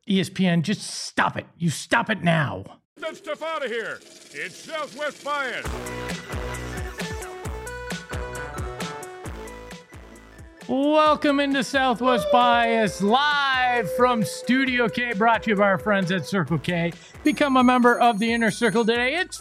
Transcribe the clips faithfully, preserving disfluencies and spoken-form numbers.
E S P N, just stop it. You stop it now. Get that stuff out of here. It's Southwest Bias. Welcome into Southwest Bias, live from Studio K, brought to you by our friends at Circle K. Become a member of the Inner Circle today. It's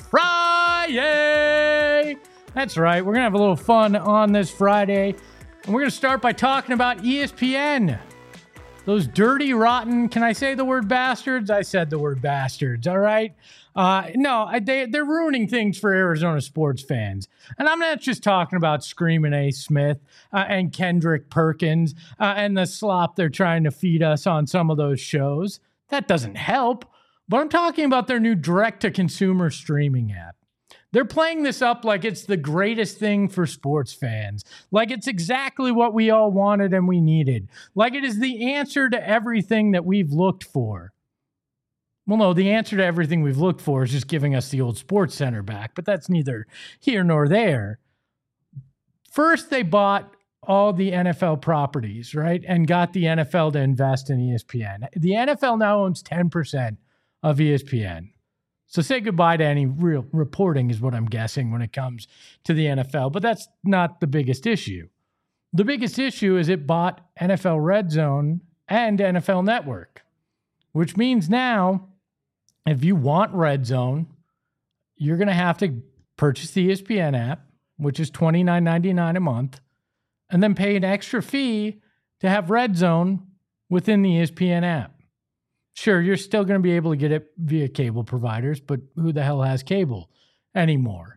Friday. That's right. We're going to have a little fun on this Friday. And we're going to start by talking about E S P N. Those dirty, rotten, can I say the word bastards? I said the word bastards, all right? Uh, no, they, they're ruining things for Arizona sports fans. And I'm not just talking about Screaming A. Smith uh, and Kendrick Perkins uh, and the slop they're trying to feed us on some of those shows. That doesn't help. But I'm talking about their new direct-to-consumer streaming app. They're playing this up like it's the greatest thing for sports fans, like it's exactly what we all wanted and we needed, like it is the answer to everything that we've looked for. Well, no, the answer to everything we've looked for is just giving us the old Sports Center back, but that's neither here nor there. First, they bought all the N F L properties, right, and got the N F L to invest in E S P N. The N F L now owns ten percent of E S P N. So say goodbye to any real reporting is what I'm guessing when it comes to the N F L. But that's not the biggest issue. The biggest issue is it bought N F L Red Zone and N F L Network, which means now if you want Red Zone, you're going to have to purchase the E S P N app, which is twenty-nine ninety-nine a month, and then pay an extra fee to have Red Zone within the E S P N app. Sure, you're still going to be able to get it via cable providers, but who the hell has cable anymore?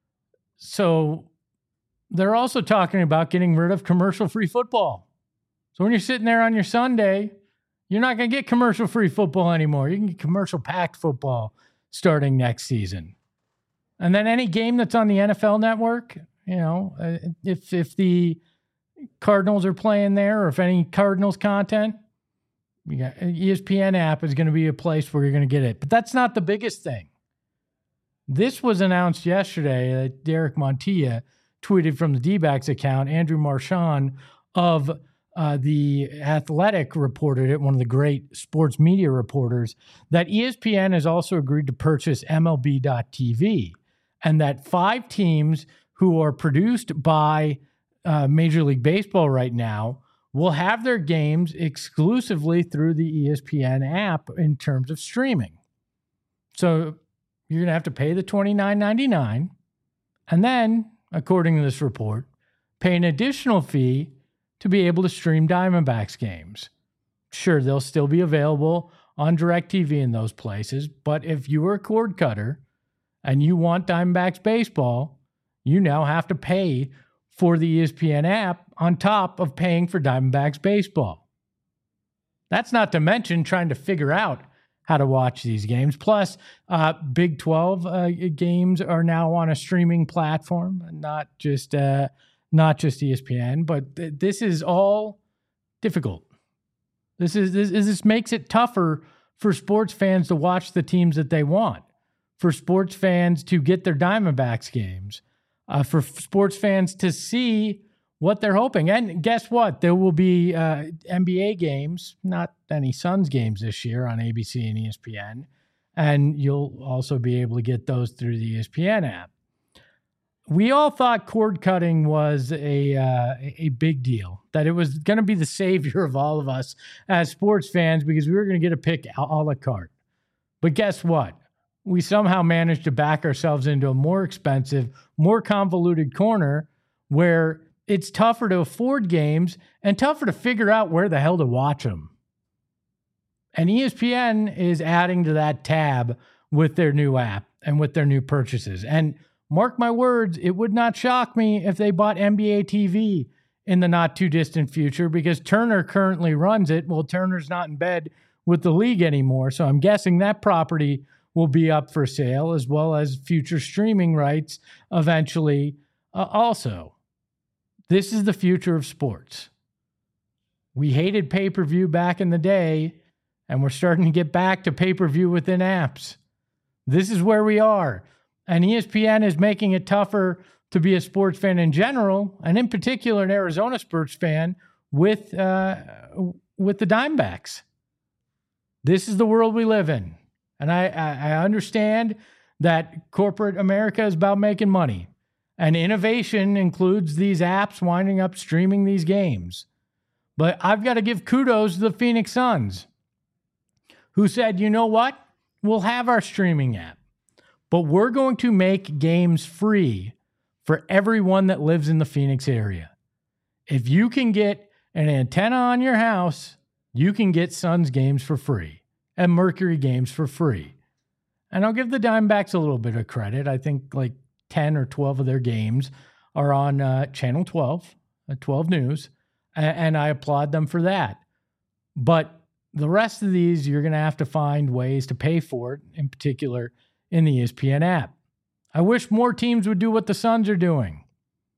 So they're also talking about getting rid of commercial-free football. So when you're sitting there on your Sunday, you're not going to get commercial-free football anymore. You can get commercial-packed football starting next season. And then any game that's on the N F L Network, you know, if if the Cardinals are playing there or if any Cardinals content, you got E S P N app is going to be a place where you're going to get it. But that's not the biggest thing. This was announced yesterday that Derek Montilla tweeted from the D-backs account. Andrew Marchand of uh, The Athletic reported it, one of the great sports media reporters, that E S P N has also agreed to purchase M L B dot T V and that five teams who are produced by uh, Major League Baseball right now will have their games exclusively through the E S P N app in terms of streaming. So you're going to have to pay the twenty-nine ninety-nine and then, according to this report, pay an additional fee to be able to stream Diamondbacks games. Sure, they'll still be available on DirecTV in those places, but if you are a cord cutter and you want Diamondbacks baseball, you now have to pay for the E S P N app on top of paying for Diamondbacks baseball. That's not to mention trying to figure out how to watch these games. Plus, uh, Big twelve uh, games are now on a streaming platform, not just uh, not just E S P N. But th- this is all difficult. This is this, this makes it tougher for sports fans to watch the teams that they want, for sports fans to get their Diamondbacks games. Uh, for f- sports fans to see what they're hoping. And guess what? There will be uh, N B A games, not any Suns games this year on A B C and E S P N. And you'll also be able to get those through the E S P N app. We all thought cord cutting was a, uh, a big deal, that it was going to be the savior of all of us as sports fans because we were going to get a pick a la carte. But guess what? We somehow managed to back ourselves into a more expensive, more convoluted corner where it's tougher to afford games and tougher to figure out where the hell to watch them. And E S P N is adding to that tab with their new app and with their new purchases. And mark my words, it would not shock me if they bought N B A T V in the not too distant future because Turner currently runs it. Well, Turner's not in bed with the league anymore, so I'm guessing that property will be up for sale, as well as future streaming rights eventually uh, also. This is the future of sports. We hated pay-per-view back in the day, and we're starting to get back to pay-per-view within apps. This is where we are. And E S P N is making it tougher to be a sports fan in general, and in particular an Arizona sports fan with, uh, with the Diamondbacks. This is the world we live in. And I, I, I understand that corporate America is about making money. And innovation includes these apps winding up streaming these games. But I've got to give kudos to the Phoenix Suns, who said, you know what? We'll have our streaming app, but we're going to make games free for everyone that lives in the Phoenix area. If you can get an antenna on your house, you can get Suns games for free and Mercury games for free. And I'll give the Diamondbacks a little bit of credit. I think like ten or twelve of their games are on uh, Channel twelve, uh, twelve News, and, and I applaud them for that. But the rest of these, you're going to have to find ways to pay for it, in particular in the E S P N app. I wish more teams would do what the Suns are doing.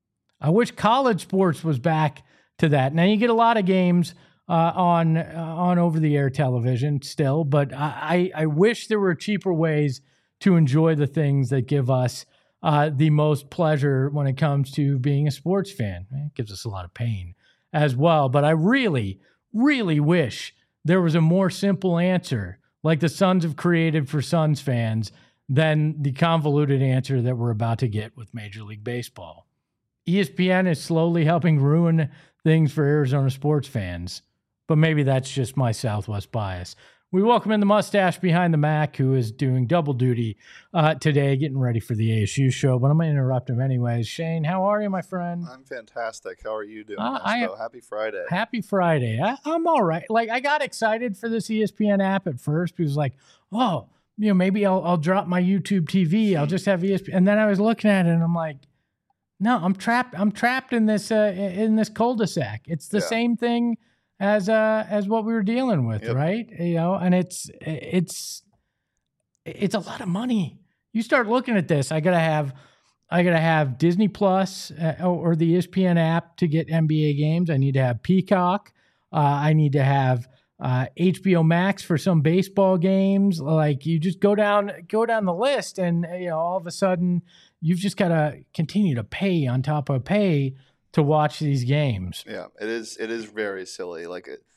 I wish college sports was back to that. Now, you get a lot of games uh, on uh, on over-the-air television still, but I, I wish there were cheaper ways to enjoy the things that give us uh, the most pleasure when it comes to being a sports fan. It gives us a lot of pain as well, but I really, really wish there was a more simple answer like the Suns have created for Suns fans than the convoluted answer that we're about to get with Major League Baseball. E S P N is slowly helping ruin things for Arizona sports fans, but maybe that's just my Southwest bias. We welcome in the mustache behind the Mac, who is doing double duty uh, today, getting ready for the A S U show, but I'm going to interrupt him anyways. Shane, how are you, my friend? I'm fantastic. How are you doing, uh, I, Happy Friday. Happy Friday. I, I'm all right. Like, I got excited for this E S P N app at first because, like, oh, you know, maybe I'll, I'll drop my YouTube T V. I'll just have E S P N. And then I was looking at it, and I'm like, no, I'm trapped. I'm trapped in this uh, in this cul-de-sac. It's the yeah. same thing as uh as what we were dealing with, yep. right? You know, and it's it's it's a lot of money. You start looking at this, I gotta have I gotta have Disney Plus uh, or the E S P N app to get N B A games. I need to have Peacock. Uh, I need to have uh, H B O Max for some baseball games. Like, you just go down go down the list, and you know, all of a sudden you've just got to continue to pay on top of pay to watch these games. Yeah, it is. It is very silly. Like, it,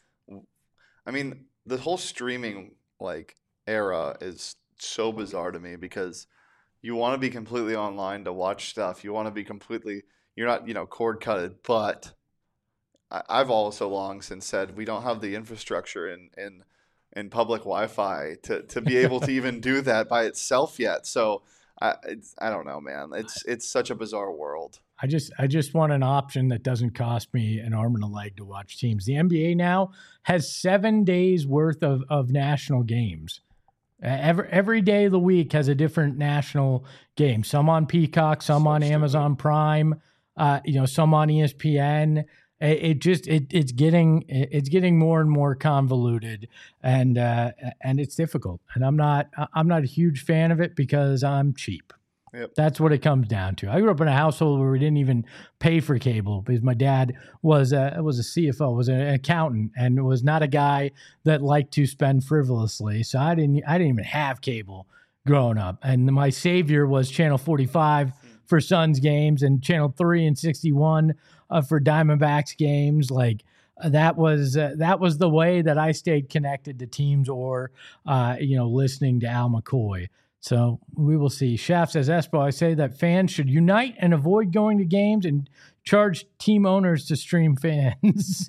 I mean, the whole streaming like era is so bizarre to me because you want to be completely online to watch stuff. You want to be completely. You're not, you know, cord cutted. But I, I've also long since said we don't have the infrastructure in in, in public Wi-Fi to to be able to even do that by itself yet. So I it's, I don't know, man. It's it's such a bizarre world. I just I just want an option that doesn't cost me an arm and a leg to watch teams. The N B A now has seven days worth of, of national games. Uh, every every day of the week has a different national game. Some on Peacock, some so on stupid. Amazon Prime, uh, you know, some on E S P N. It, it just it it's getting it's getting more and more convoluted, and uh, and it's difficult. And I'm not I'm not a huge fan of it because I'm cheap. Yep. That's what it comes down to. I grew up in a household where we didn't even pay for cable because my dad was a, was a C F O, was an accountant, and was not a guy that liked to spend frivolously. So I didn't I didn't even have cable growing up. And my savior was Channel forty-five for Suns games and Channel three and sixty-one uh, for Diamondbacks games. Like, uh, that was uh, that was the way that I stayed connected to teams, or uh, you know, listening to Al McCoy. So we will see. Shaft says, Espo, I say that fans should unite and avoid going to games and charge team owners to stream fans.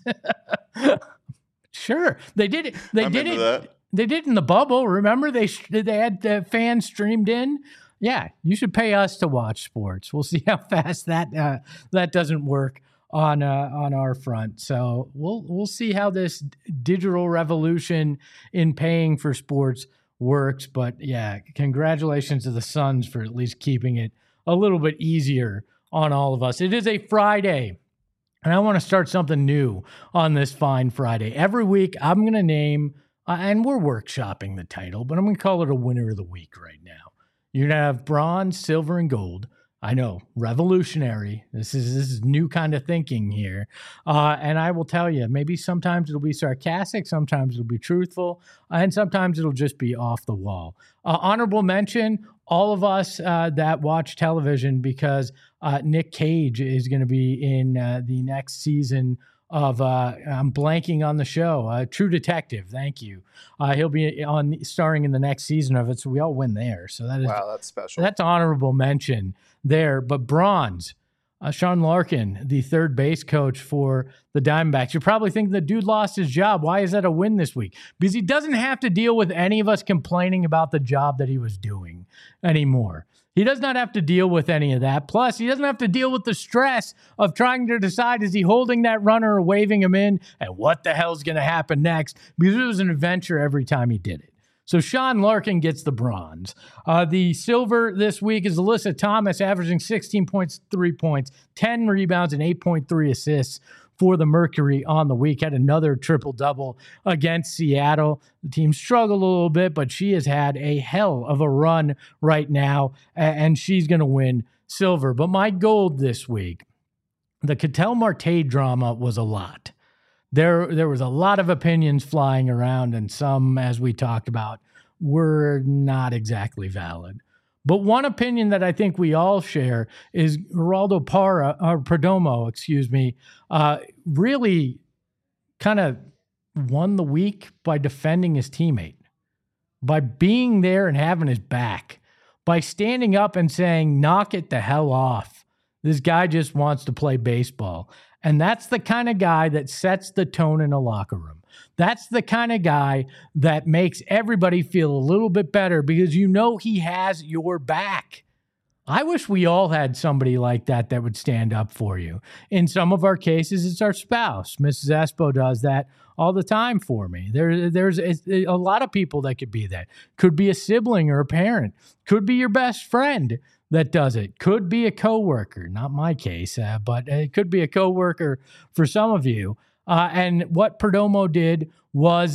Sure. They did it. They I'm did it. That. They did it in the bubble. Remember, they they had the fans streamed in. Yeah, you should pay us to watch sports. We'll see how fast that uh, that doesn't work on uh, on our front. So we'll we'll see how this digital revolution in paying for sports works. But yeah, congratulations to the Suns for at least keeping it a little bit easier on all of us. It is a Friday, and I want to start something new on this fine Friday. Every week, I'm going to name, uh, and we're workshopping the title, but I'm going to call it a winner of the week right now. You're going to have bronze, silver, and gold. I know, revolutionary. This is this is new kind of thinking here. Uh, and I will tell you, maybe sometimes it'll be sarcastic, sometimes it'll be truthful, and sometimes it'll just be off the wall. Uh, honorable mention, all of us uh, that watch television, because uh, Nick Cage is going to be in uh, the next season of, uh, I'm blanking on the show, uh, True Detective. Thank you. Uh, he'll be on starring in the next season of it, so we all win there. So that is Wow, that's special. That's honorable mention there. But bronze, uh, Sean Larkin, the third base coach for the Diamondbacks. You're probably thinking the dude lost his job. Why is that a win this week? Because he doesn't have to deal with any of us complaining about the job that he was doing anymore. He does not have to deal with any of that. Plus, he doesn't have to deal with the stress of trying to decide, is he holding that runner or waving him in? And what the hell's going to happen next? Because it was an adventure every time he did it. So Sean Larkin gets the bronze. Uh, the silver this week is Alyssa Thomas, averaging sixteen point three points, ten rebounds, and eight point three assists for the Mercury on the week. Had another triple-double against Seattle. The team struggled a little bit, but she has had a hell of a run right now, and she's going to win silver. But my gold this week, the Ketel Marte drama was a lot. There, there was a lot of opinions flying around, and some, as we talked about, were not exactly valid. But one opinion that I think we all share is Geraldo Parra, or Perdomo, excuse me, uh, really kind of won the week by defending his teammate, by being there and having his back, by standing up and saying, knock it the hell off. This guy just wants to play baseball. And that's the kind of guy that sets the tone in a locker room. That's the kind of guy that makes everybody feel a little bit better because you know he has your back. I wish we all had somebody like that that would stand up for you. In some of our cases, it's our spouse. Missus Espo does that all the time for me. There, there's a, a lot of people that could be that. Could be a sibling or a parent. Could be your best friend that does it. Could be a coworker. Not my case, uh, but it could be a coworker for some of you. Uh, and what Perdomo did was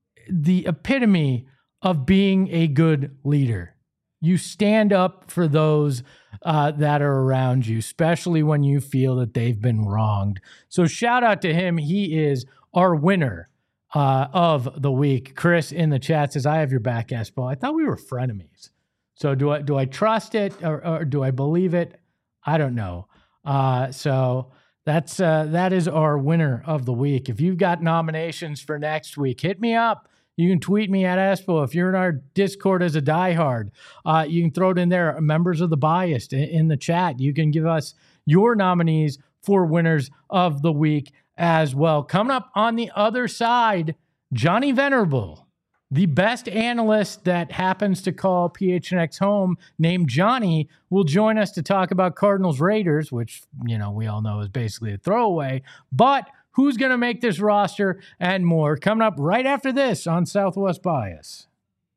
the epitome of being a good leader. You stand up for those uh, that are around you, especially when you feel that they've been wronged. So shout out to him. He is our winner uh, of the week. Chris in the chat says, I have your back, Espo. I thought we were frenemies. So do I do I trust it or, or do I believe it? I don't know. Uh, so that's uh, that is our winner of the week. If you've got nominations for next week, hit me up. You can tweet me at Espo. If you're in our Discord as a diehard, uh, you can throw it in there. Members of the Biased in, in the chat. You can give us your nominees for winners of the week as well. Coming up on the other side, Johnny Venerable, the best analyst that happens to call P H N X home, named Johnny, will join us to talk about Cardinals Raiders, which, you know, we all know is basically a throwaway. But who's going to make this roster and more? Coming up right after this on Southwest Bias.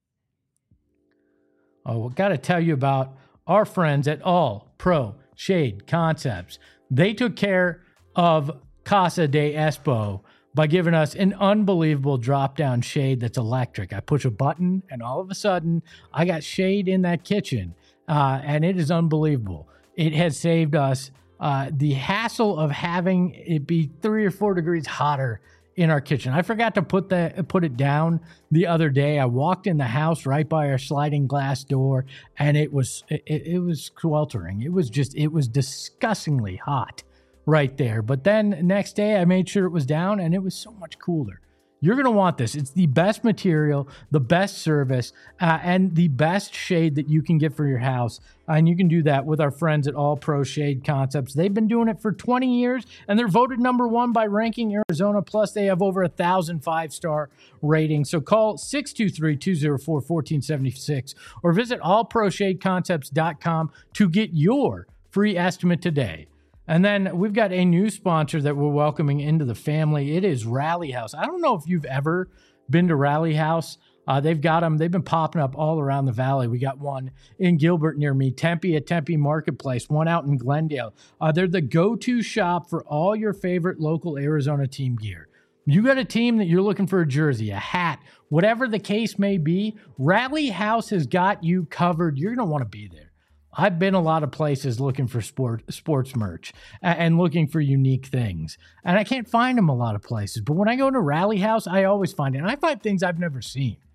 Oh, we've got to tell you about our friends at All Pro Shade Concepts. They took care of Casa de Espo by giving us an unbelievable drop-down shade that's electric. I push a button, and all of a sudden, I got shade in that kitchen, uh, and it is unbelievable. It has saved us uh, the hassle of having it be three or four degrees hotter in our kitchen. I forgot to put that put it down the other day. I walked in the house right by our sliding glass door, and it was it, it was sweltering. It was just it was disgustingly hot right there. But then next day I made sure it was down and it was so much cooler. You're going to want this. It's the best material, the best service, uh, and the best shade that you can get for your house. And you can do that with our friends at All Pro Shade Concepts. They've been doing it for twenty years, and they're voted number one by Ranking Arizona. Plus, they have over a thousand five-star ratings. So call six two three, two oh four, one four seven six or visit all pro shade concepts dot com to get your free estimate today. And then we've got a new sponsor that we're welcoming into the family. It is Rally House. I don't know if you've ever been to Rally House. Uh, they've got them. They've been popping up all around the valley. We got one in Gilbert near me, Tempe at Tempe Marketplace, one out in Glendale. Uh, they're the go-to shop for all your favorite local Arizona team gear. You got a team that you're looking for a jersey, a hat, whatever the case may be, Rally House has got you covered. You're going to want to be there. I've been a lot of places looking for sport, sports merch and looking for unique things. And I can't find them a lot of places. But when I go to Rally House, I always find it. And I find things I've never seen.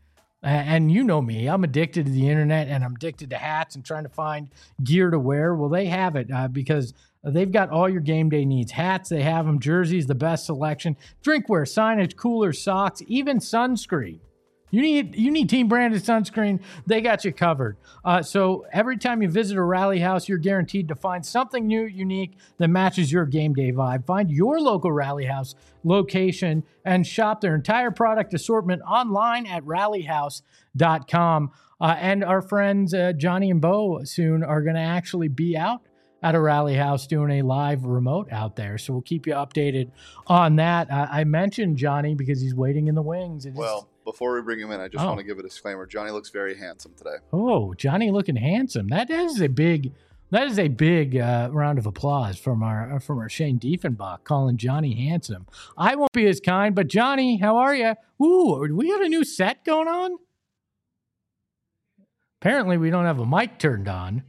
And you know me, I'm addicted to the internet and I'm addicted to hats and trying to find gear to wear. Well, they have it uh, because they've got all your game day needs. Hats, they have them. Jerseys, the best selection. Drinkware, signage, coolers, socks, even sunscreen. You need you need team branded sunscreen. They got you covered. Uh, so every time you visit a Rally House, you're guaranteed to find something new, unique that matches your game day vibe. Find your local Rally House location and shop their entire product assortment online at rally house dot com. Uh, and our friends uh, Johnny and Bo soon are going to actually be out at a Rally House doing a live remote out there. So we'll keep you updated on that. Uh, I mentioned Johnny because he's waiting in the wings. It Well, before we bring him in, I just Oh. want to give a disclaimer. Johnny looks very handsome today. Oh, Johnny looking handsome. That is a big, that is a big uh, round of applause from our from our Shane Diefenbach calling Johnny handsome. I won't be as kind, but Johnny, how are you? Ooh, we got a new set going on. Apparently, we don't have a mic turned on.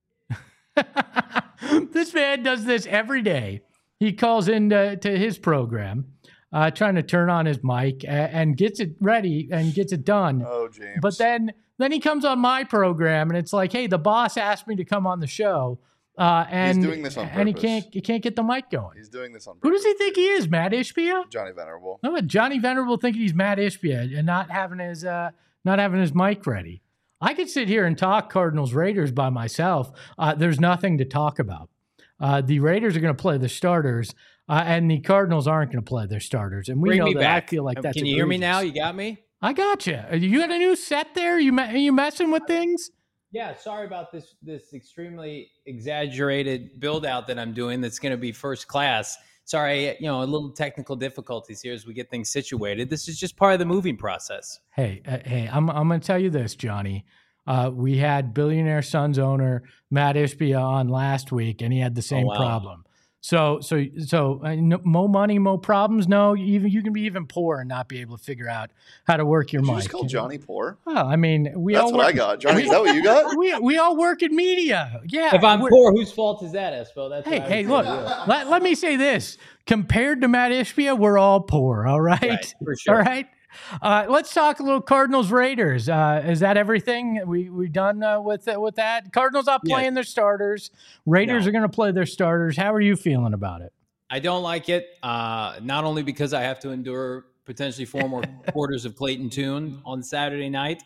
This man does this every day. He calls in to, to his program, uh, trying to turn on his mic uh, and gets it ready and gets it done. Oh, James. But then then he comes on my program and it's like, hey, the boss asked me to come on the show. Uh, and, He's doing this on and he purpose. can't he can't get the mic going. He's doing this on Who purpose. does he think he is, Matt Ishbia? Johnny Venerable. No, but Johnny Venerable thinking he's Matt Ishbia and not having his uh, not having his mic ready. I could sit here and talk Cardinals Raiders by myself. Uh, there's nothing to talk about. Uh, the Raiders are going to play the starters, uh, and the Cardinals aren't going to play their starters. And we Bring know me that back. I feel like Um, that's Can you hear me egregious. now? You got me? I got you. You got a new set there? You me- you messing with things? Yeah, sorry about this this extremely exaggerated build out that I'm doing that's going to be first class. Sorry, you know, a little technical difficulties here as we get things situated. This is just part of the moving process. Hey, uh, hey, I'm I'm going to tell you this, Johnny. Uh, we had Billionaire Sons owner Matt Ishbia on last week, and he had the same Oh, wow. problem. So, so, so, uh, no, mo money, mo problems. No, even you can be even poor and not be able to figure out how to work your Did you mic. just call Johnny poor? Well, I mean, we That's all what work, I got. Johnny, is that what you got? we we all work in media. Yeah. If I'm we're- poor, whose fault is that, Espo? That's Hey, what I hey, would look, say. let, let me say this. Compared to Matt Ishbia, we're all poor, all right? Right, for sure. All right? Uh, let's talk a little Cardinals Raiders. Uh, is that everything? We we done uh, with uh, with that? Cardinals not Yeah. playing their starters. Raiders No. are going to play their starters. How are you feeling about it? I don't like it, uh, not only because I have to endure potentially four more quarters of Clayton Tune on Saturday night.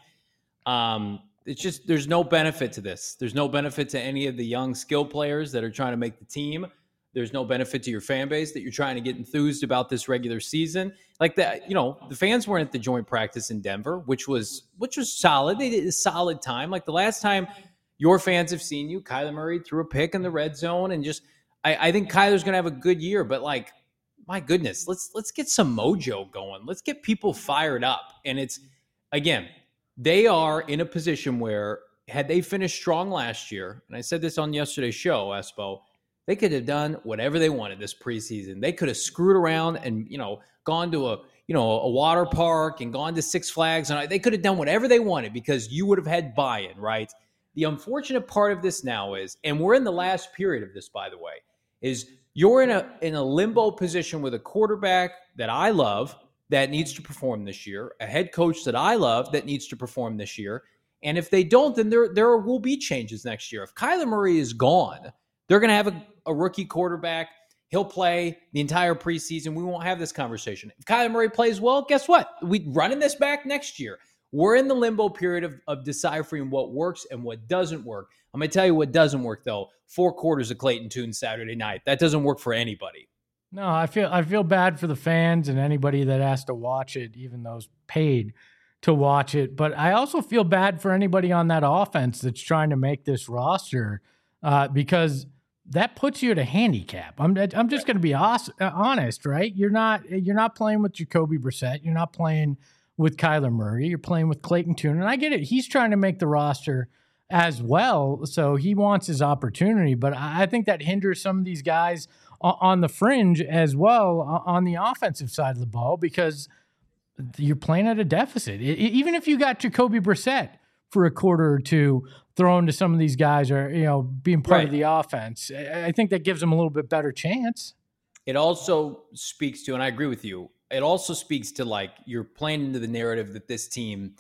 Um, it's just there's no benefit to this. There's no benefit to any of the young skill players that are trying to make the team. There's no benefit to your fan base that you're trying to get enthused about this regular season. Like that, you know, the fans weren't at the joint practice in Denver, which was which was solid. They did a solid time. Like the last time your fans have seen you, Kyler Murray threw a pick in the red zone, and just I, I think Kyler's going to have a good year. But like, my goodness, let's let's get some mojo going. Let's get people fired up. And it's again, they are in a position where had they finished strong last year, and I said this on yesterday's show, Espo. They could have done whatever they wanted this preseason. They could have screwed around and, you know, gone to a, you know, a water park and gone to Six Flags. And they could have done whatever they wanted because you would have had buy-in, right? The unfortunate part of this now is, and we're in the last period of this, by the way, is you're in a in a limbo position with a quarterback that I love that needs to perform this year, a head coach that I love that needs to perform this year. And if they don't, then there, there will be changes next year. If Kyler Murray is gone, they're going to have a, a rookie quarterback. He'll play the entire preseason. We won't have this conversation. If Kyler Murray plays well, guess what? We're running this back next year. We're in the limbo period of, of deciphering what works and what doesn't work. I'm going to tell you what doesn't work, though. Four quarters of Clayton Tune Saturday night. That doesn't work for anybody. No, I feel I feel bad for the fans and anybody that has to watch it, even those paid to watch it. But I also feel bad for anybody on that offense that's trying to make this roster uh, because that puts you at a handicap. I'm I'm just going to be os- honest, right? You're not you're not playing with Jacoby Brissett. You're not playing with Kyler Murray. You're playing with Clayton Tune, and I get it. He's trying to make the roster as well, so he wants his opportunity. But I think that hinders some of these guys on the fringe as well on the offensive side of the ball because you're playing at a deficit. Even if you got Jacoby Brissett for a quarter or two thrown to some of these guys or, you know, being part Right. of the offense, I think that gives them a little bit better chance. It also speaks to, and I agree with you, it also speaks to like you're playing into the narrative that this team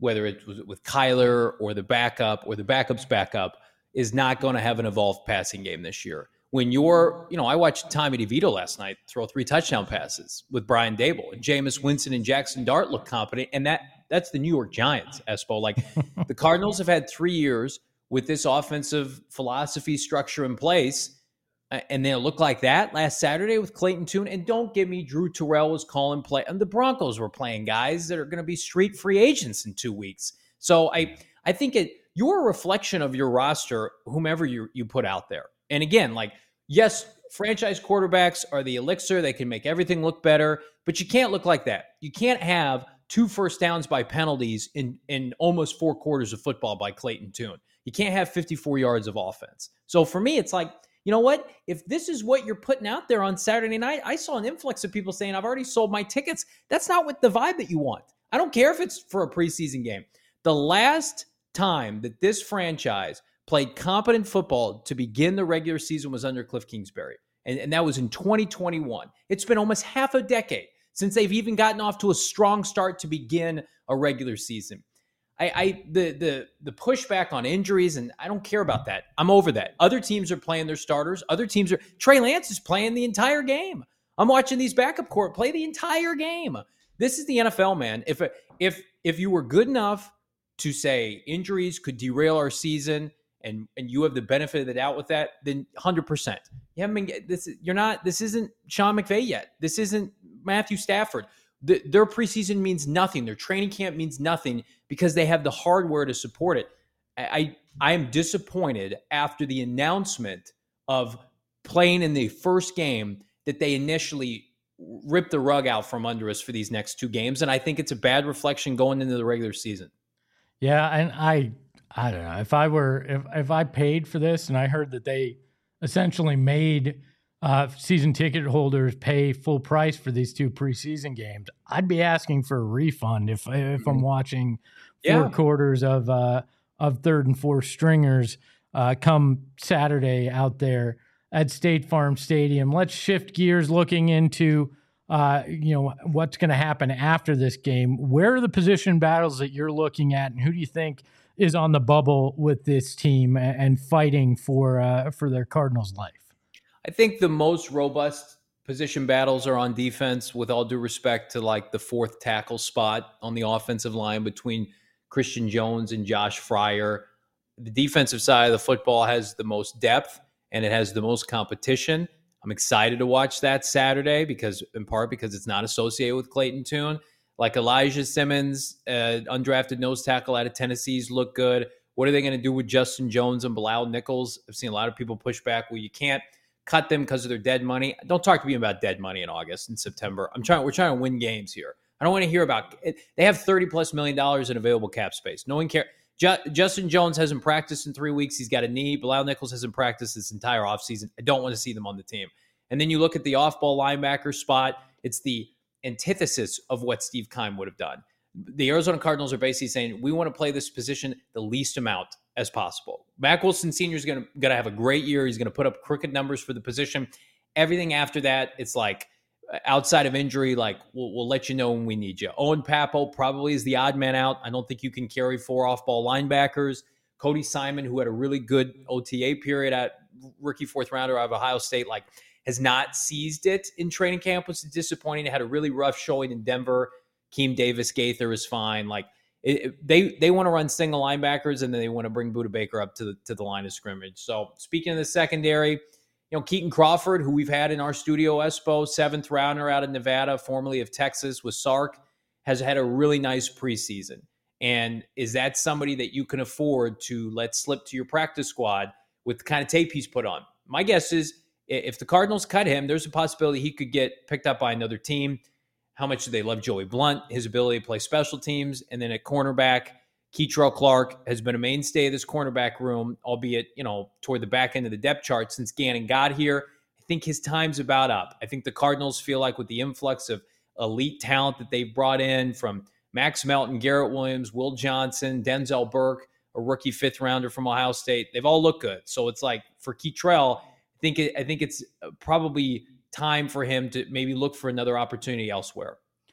whether it was with Kyler or the backup or the backup's backup, is not going to have an evolved passing game this year. When you're, you know, I watched Tommy DeVito last night throw three touchdown passes with Brian Dable, and Jameis Winston and Jackson Dart look competent, and that that's the New York Giants, Espo. Like, the Cardinals have had three years with this offensive philosophy structure in place, and they look like that last Saturday with Clayton Tune. And don't give me Drew Terrell was calling play, and the Broncos were playing guys that are going to be street free agents in two weeks. So I I think it you're a reflection of your roster, whomever you you put out there. And again, like, yes, franchise quarterbacks are the elixir. They can make everything look better, but you can't look like that. You can't have two first downs by penalties in, in almost four quarters of football by Clayton Tune. You can't have fifty-four yards of offense. So for me, it's like, you know what? If this is what you're putting out there on Saturday night, I saw an influx of people saying, I've already sold my tickets. That's not what the vibe that you want. I don't care if it's for a preseason game. The last time that this franchise played competent football to begin the regular season was under Cliff Kingsbury. And, and that was in twenty twenty-one. It's been almost half a decade since they've even gotten off to a strong start to begin a regular season. I, I the the the pushback on injuries, and I don't care about that. I'm over that. Other teams are playing their starters. Other teams are Trey Lance is playing the entire game. I'm watching these backup court play the entire game. This is the N F L, man. If if if you were good enough to say injuries could derail our season, and and you have the benefit of the doubt with that, then one hundred percent. You haven't been this. You're not. This isn't Sean McVay yet. This isn't Matthew Stafford. The, their preseason means nothing. Their training camp means nothing because they have the hardware to support it. I I am disappointed after the announcement of playing in the first game that they initially ripped the rug out from under us for these next two games, and I think it's a bad reflection going into the regular season. Yeah, and I. I don't know if I were, if, if I paid for this and I heard that they essentially made uh, season ticket holders pay full price for these two preseason games, I'd be asking for a refund if, if I'm watching four yeah. quarters of, uh, of third and fourth stringers uh, come Saturday out there at State Farm Stadium. Let's shift gears looking into, uh, you know, what's going to happen after this game. Where are the position battles that you're looking at, and who do you think is on the bubble with this team and fighting for uh, for their Cardinals' life? I think the most robust position battles are on defense, with all due respect to like the fourth tackle spot on the offensive line between Christian Jones and Josh Fryer. The defensive side of the football has the most depth and it has the most competition. I'm excited to watch that Saturday because, in part, because it's not associated with Clayton Tune. Like Elijah Simmons, uh, undrafted nose tackle out of Tennessee's look good. What are they going to do with Justin Jones and Bilal Nichols? I've seen a lot of people push back. Well, you can't cut them because of their dead money. Don't talk to me about dead money in August and September. I'm trying. We're trying to win games here. I don't want to hear about it. They have thirty plus million dollars in available cap space. No one cares. Ju- Justin Jones hasn't practiced in three weeks. He's got a knee. Bilal Nichols hasn't practiced this entire offseason. I don't want to see them on the team. And then you look at the off-ball linebacker spot. It's the antithesis of what Steve Keim would have done. The Arizona Cardinals are basically saying, we want to play this position the least amount as possible. Mack Wilson Senior is going to going to have a great year. He's going to put up crooked numbers for the position. Everything after that, it's like outside of injury, like we'll, we'll let you know when we need you. Owen Pappo probably is the odd man out. I don't think you can carry four off-ball linebackers. Cody Simon, who had a really good O T A period at rookie fourth rounder out of Ohio State, like has not seized it in training camp, which is disappointing. It had a really rough showing in Denver. Keem Davis Gaither is fine. Like it, it, they they want to run single linebackers, and then they want to bring Budda Baker up to the to the line of scrimmage. So speaking of the secondary, you know, Keaton Crawford, who we've had in our studio, Espo, seventh rounder out of Nevada, formerly of Texas with Sark, has had a really nice preseason. And is that somebody that you can afford to let slip to your practice squad with the kind of tape he's put on? My guess is, if the Cardinals cut him, there's a possibility he could get picked up by another team. How much do they love Joey Blunt, his ability to play special teams? And then at cornerback, Keitrell Clark has been a mainstay of this cornerback room, albeit, you know, toward the back end of the depth chart since Gannon got here. I think his time's about up. I think the Cardinals feel like with the influx of elite talent that they've brought in from Max Melton, Garrett Williams, Will Johnson, Denzel Burke, a rookie fifth rounder from Ohio State, they've all looked good. So it's like for Keitrell, I think it, I think it's probably time for him to maybe look for another opportunity elsewhere.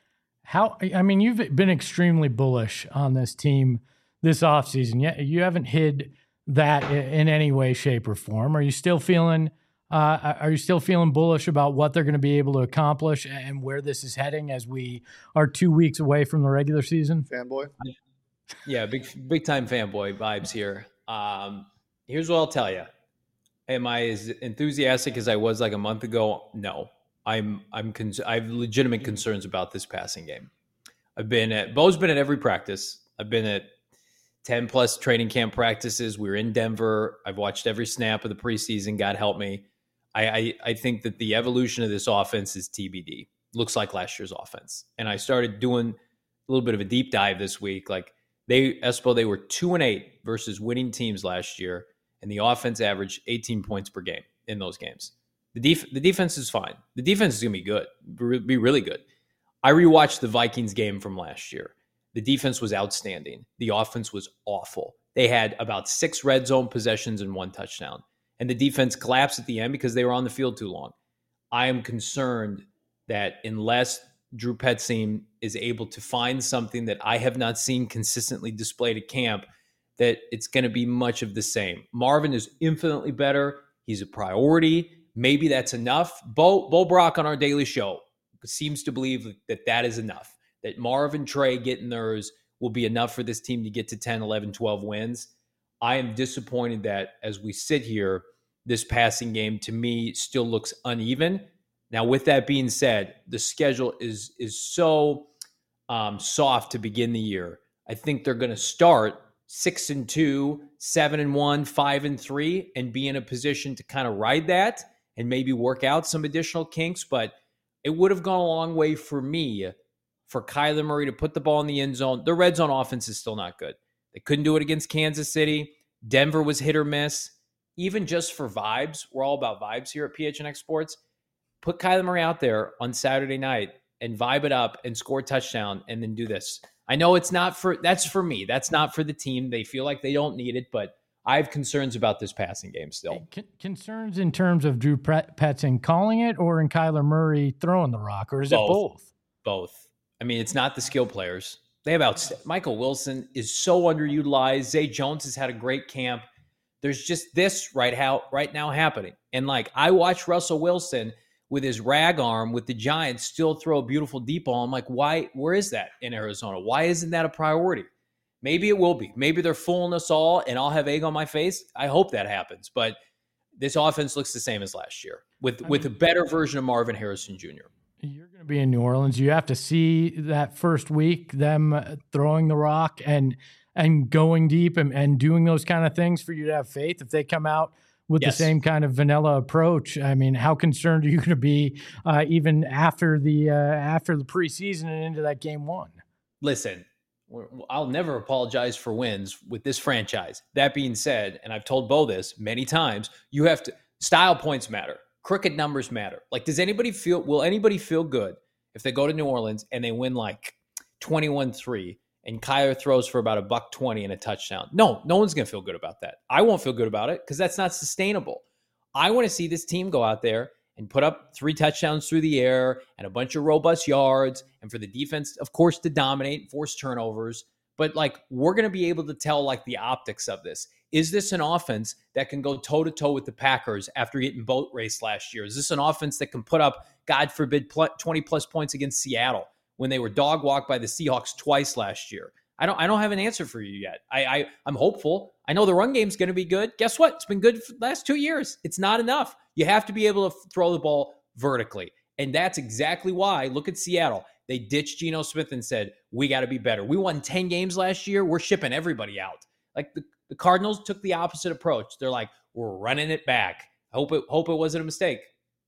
How, I mean, you've been extremely bullish on this team this offseason. Yeah, you haven't hid that in any way, shape, or form. Are you still feeling uh, are you still feeling bullish about what they're going to be able to accomplish and where this is heading as we are two weeks away from the regular season? Fanboy? Yeah, big big time fanboy vibes here. Um, here's what I'll tell you. Am I as enthusiastic as I was like a month ago? No. I'm I'm cons- I have legitimate concerns about this passing game. I've been at Bo's been at every practice. I've been at ten plus training camp practices. We were in Denver. I've watched every snap of the preseason. God help me. I, I I think that the evolution of this offense is T B D. Looks like last year's offense. And I started doing a little bit of a deep dive this week. Like they Espo, they were two and eight versus winning teams last year, and the offense averaged eighteen points per game in those games. The, def- the defense is fine. The defense is going to be good, be really good. I rewatched the Vikings game from last year. The defense was outstanding. The offense was awful. They had about six red zone possessions and one touchdown. And the defense collapsed at the end because they were on the field too long. I am concerned that unless Drew Petzing is able to find something that I have not seen consistently displayed at camp, that it's going to be much of the same. Marvin is infinitely better. He's a priority. Maybe that's enough. Bo, Bo Brock on our daily show seems to believe that that is enough, that Marv and Trey getting theirs will be enough for this team to get to ten, eleven, twelve wins. I am disappointed that as we sit here, this passing game to me still looks uneven. Now, with that being said, the schedule is, is so um, soft to begin the year. I think they're going to start six and two, seven and one, five and three, and be in a position to kind of ride that and maybe work out some additional kinks. But it would have gone a long way for me for Kyler Murray to put the ball in the end zone. The red zone offense is still not good. They couldn't do it against Kansas City. Denver was hit or miss. Even just for vibes, we're all about vibes here at P H N X Sports. Put Kyler Murray out there on Saturday night and vibe it up and score a touchdown and then do this. I know it's not for, that's for me. That's not for the team. They feel like they don't need it, but I have concerns about this passing game still. Con- concerns in terms of Drew Petzing calling it or in Kyler Murray throwing the rock, or is both. it both? Both. I mean, it's not the skill players. They have out. Michael Wilson is so underutilized. Zay Jones has had a great camp. There's just this right how right now happening. And like I watched Russell Wilson with his rag arm with the Giants still throw a beautiful deep ball. I'm like, why? Where is that in Arizona? Why isn't that a priority? Maybe it will be. Maybe they're fooling us all and I'll have egg on my face. I hope that happens. But this offense looks the same as last year with, with a better version of Marvin Harrison Junior You're going to be in New Orleans. You have to see that first week, them throwing the rock and and going deep and, and doing those kind of things for you to have faith. If they come out with yes. the same kind of vanilla approach, I mean, how concerned are you going to be uh, even after the uh, after the preseason and into that game one? Listen, I'll never apologize for wins with this franchise. That being said, and I've told Bo this many times, you have to style points matter. Crooked numbers matter. Like, does anybody feel, will anybody feel good if they go to New Orleans and they win like twenty-one three and Kyler throws for about a buck twenty and a touchdown? No, no one's going to feel good about that. I won't feel good about it because that's not sustainable. I want to see this team go out there and put up three touchdowns through the air and a bunch of robust yards, and for the defense, of course, to dominate, force turnovers. But like, we're going to be able to tell like the optics of this. Is this an offense that can go toe to toe with the Packers after getting boat raced last year? Is this an offense that can put up, God forbid, twenty plus points against Seattle when they were dog walked by the Seahawks twice last year? I don't, I don't have an answer for you yet. I, I I'm hopeful. I know the run game's going to be good. Guess what? It's been good for the last two years. It's not enough. You have to be able to throw the ball vertically. And that's exactly why, look at Seattle. They ditched Geno Smith and said, we got to be better. We won ten games last year. We're shipping everybody out. Like the, the Cardinals took the opposite approach. They're like, we're running it back. I hope it, hope it wasn't a mistake.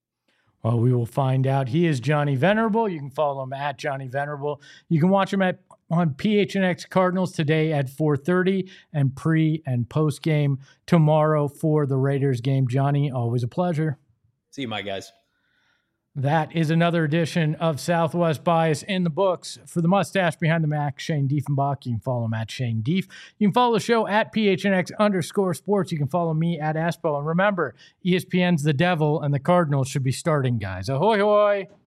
Well, we will find out. He is Johnny Venerable. You can follow him at Johnny Venerable. You can watch him at on P H N X Cardinals today at four thirty and pre and post game tomorrow for the Raiders game. Johnny, always a pleasure. See you, my guys. That is another edition of Southwest Bias in the books. For the mustache behind the Mac, Shane Diefenbach. You can follow him at Shane Dief. You can follow the show at P H N X underscore sports. You can follow me at Espo. And remember, E S P N's the devil and the Cardinals should be starting guys. Ahoy, hoy.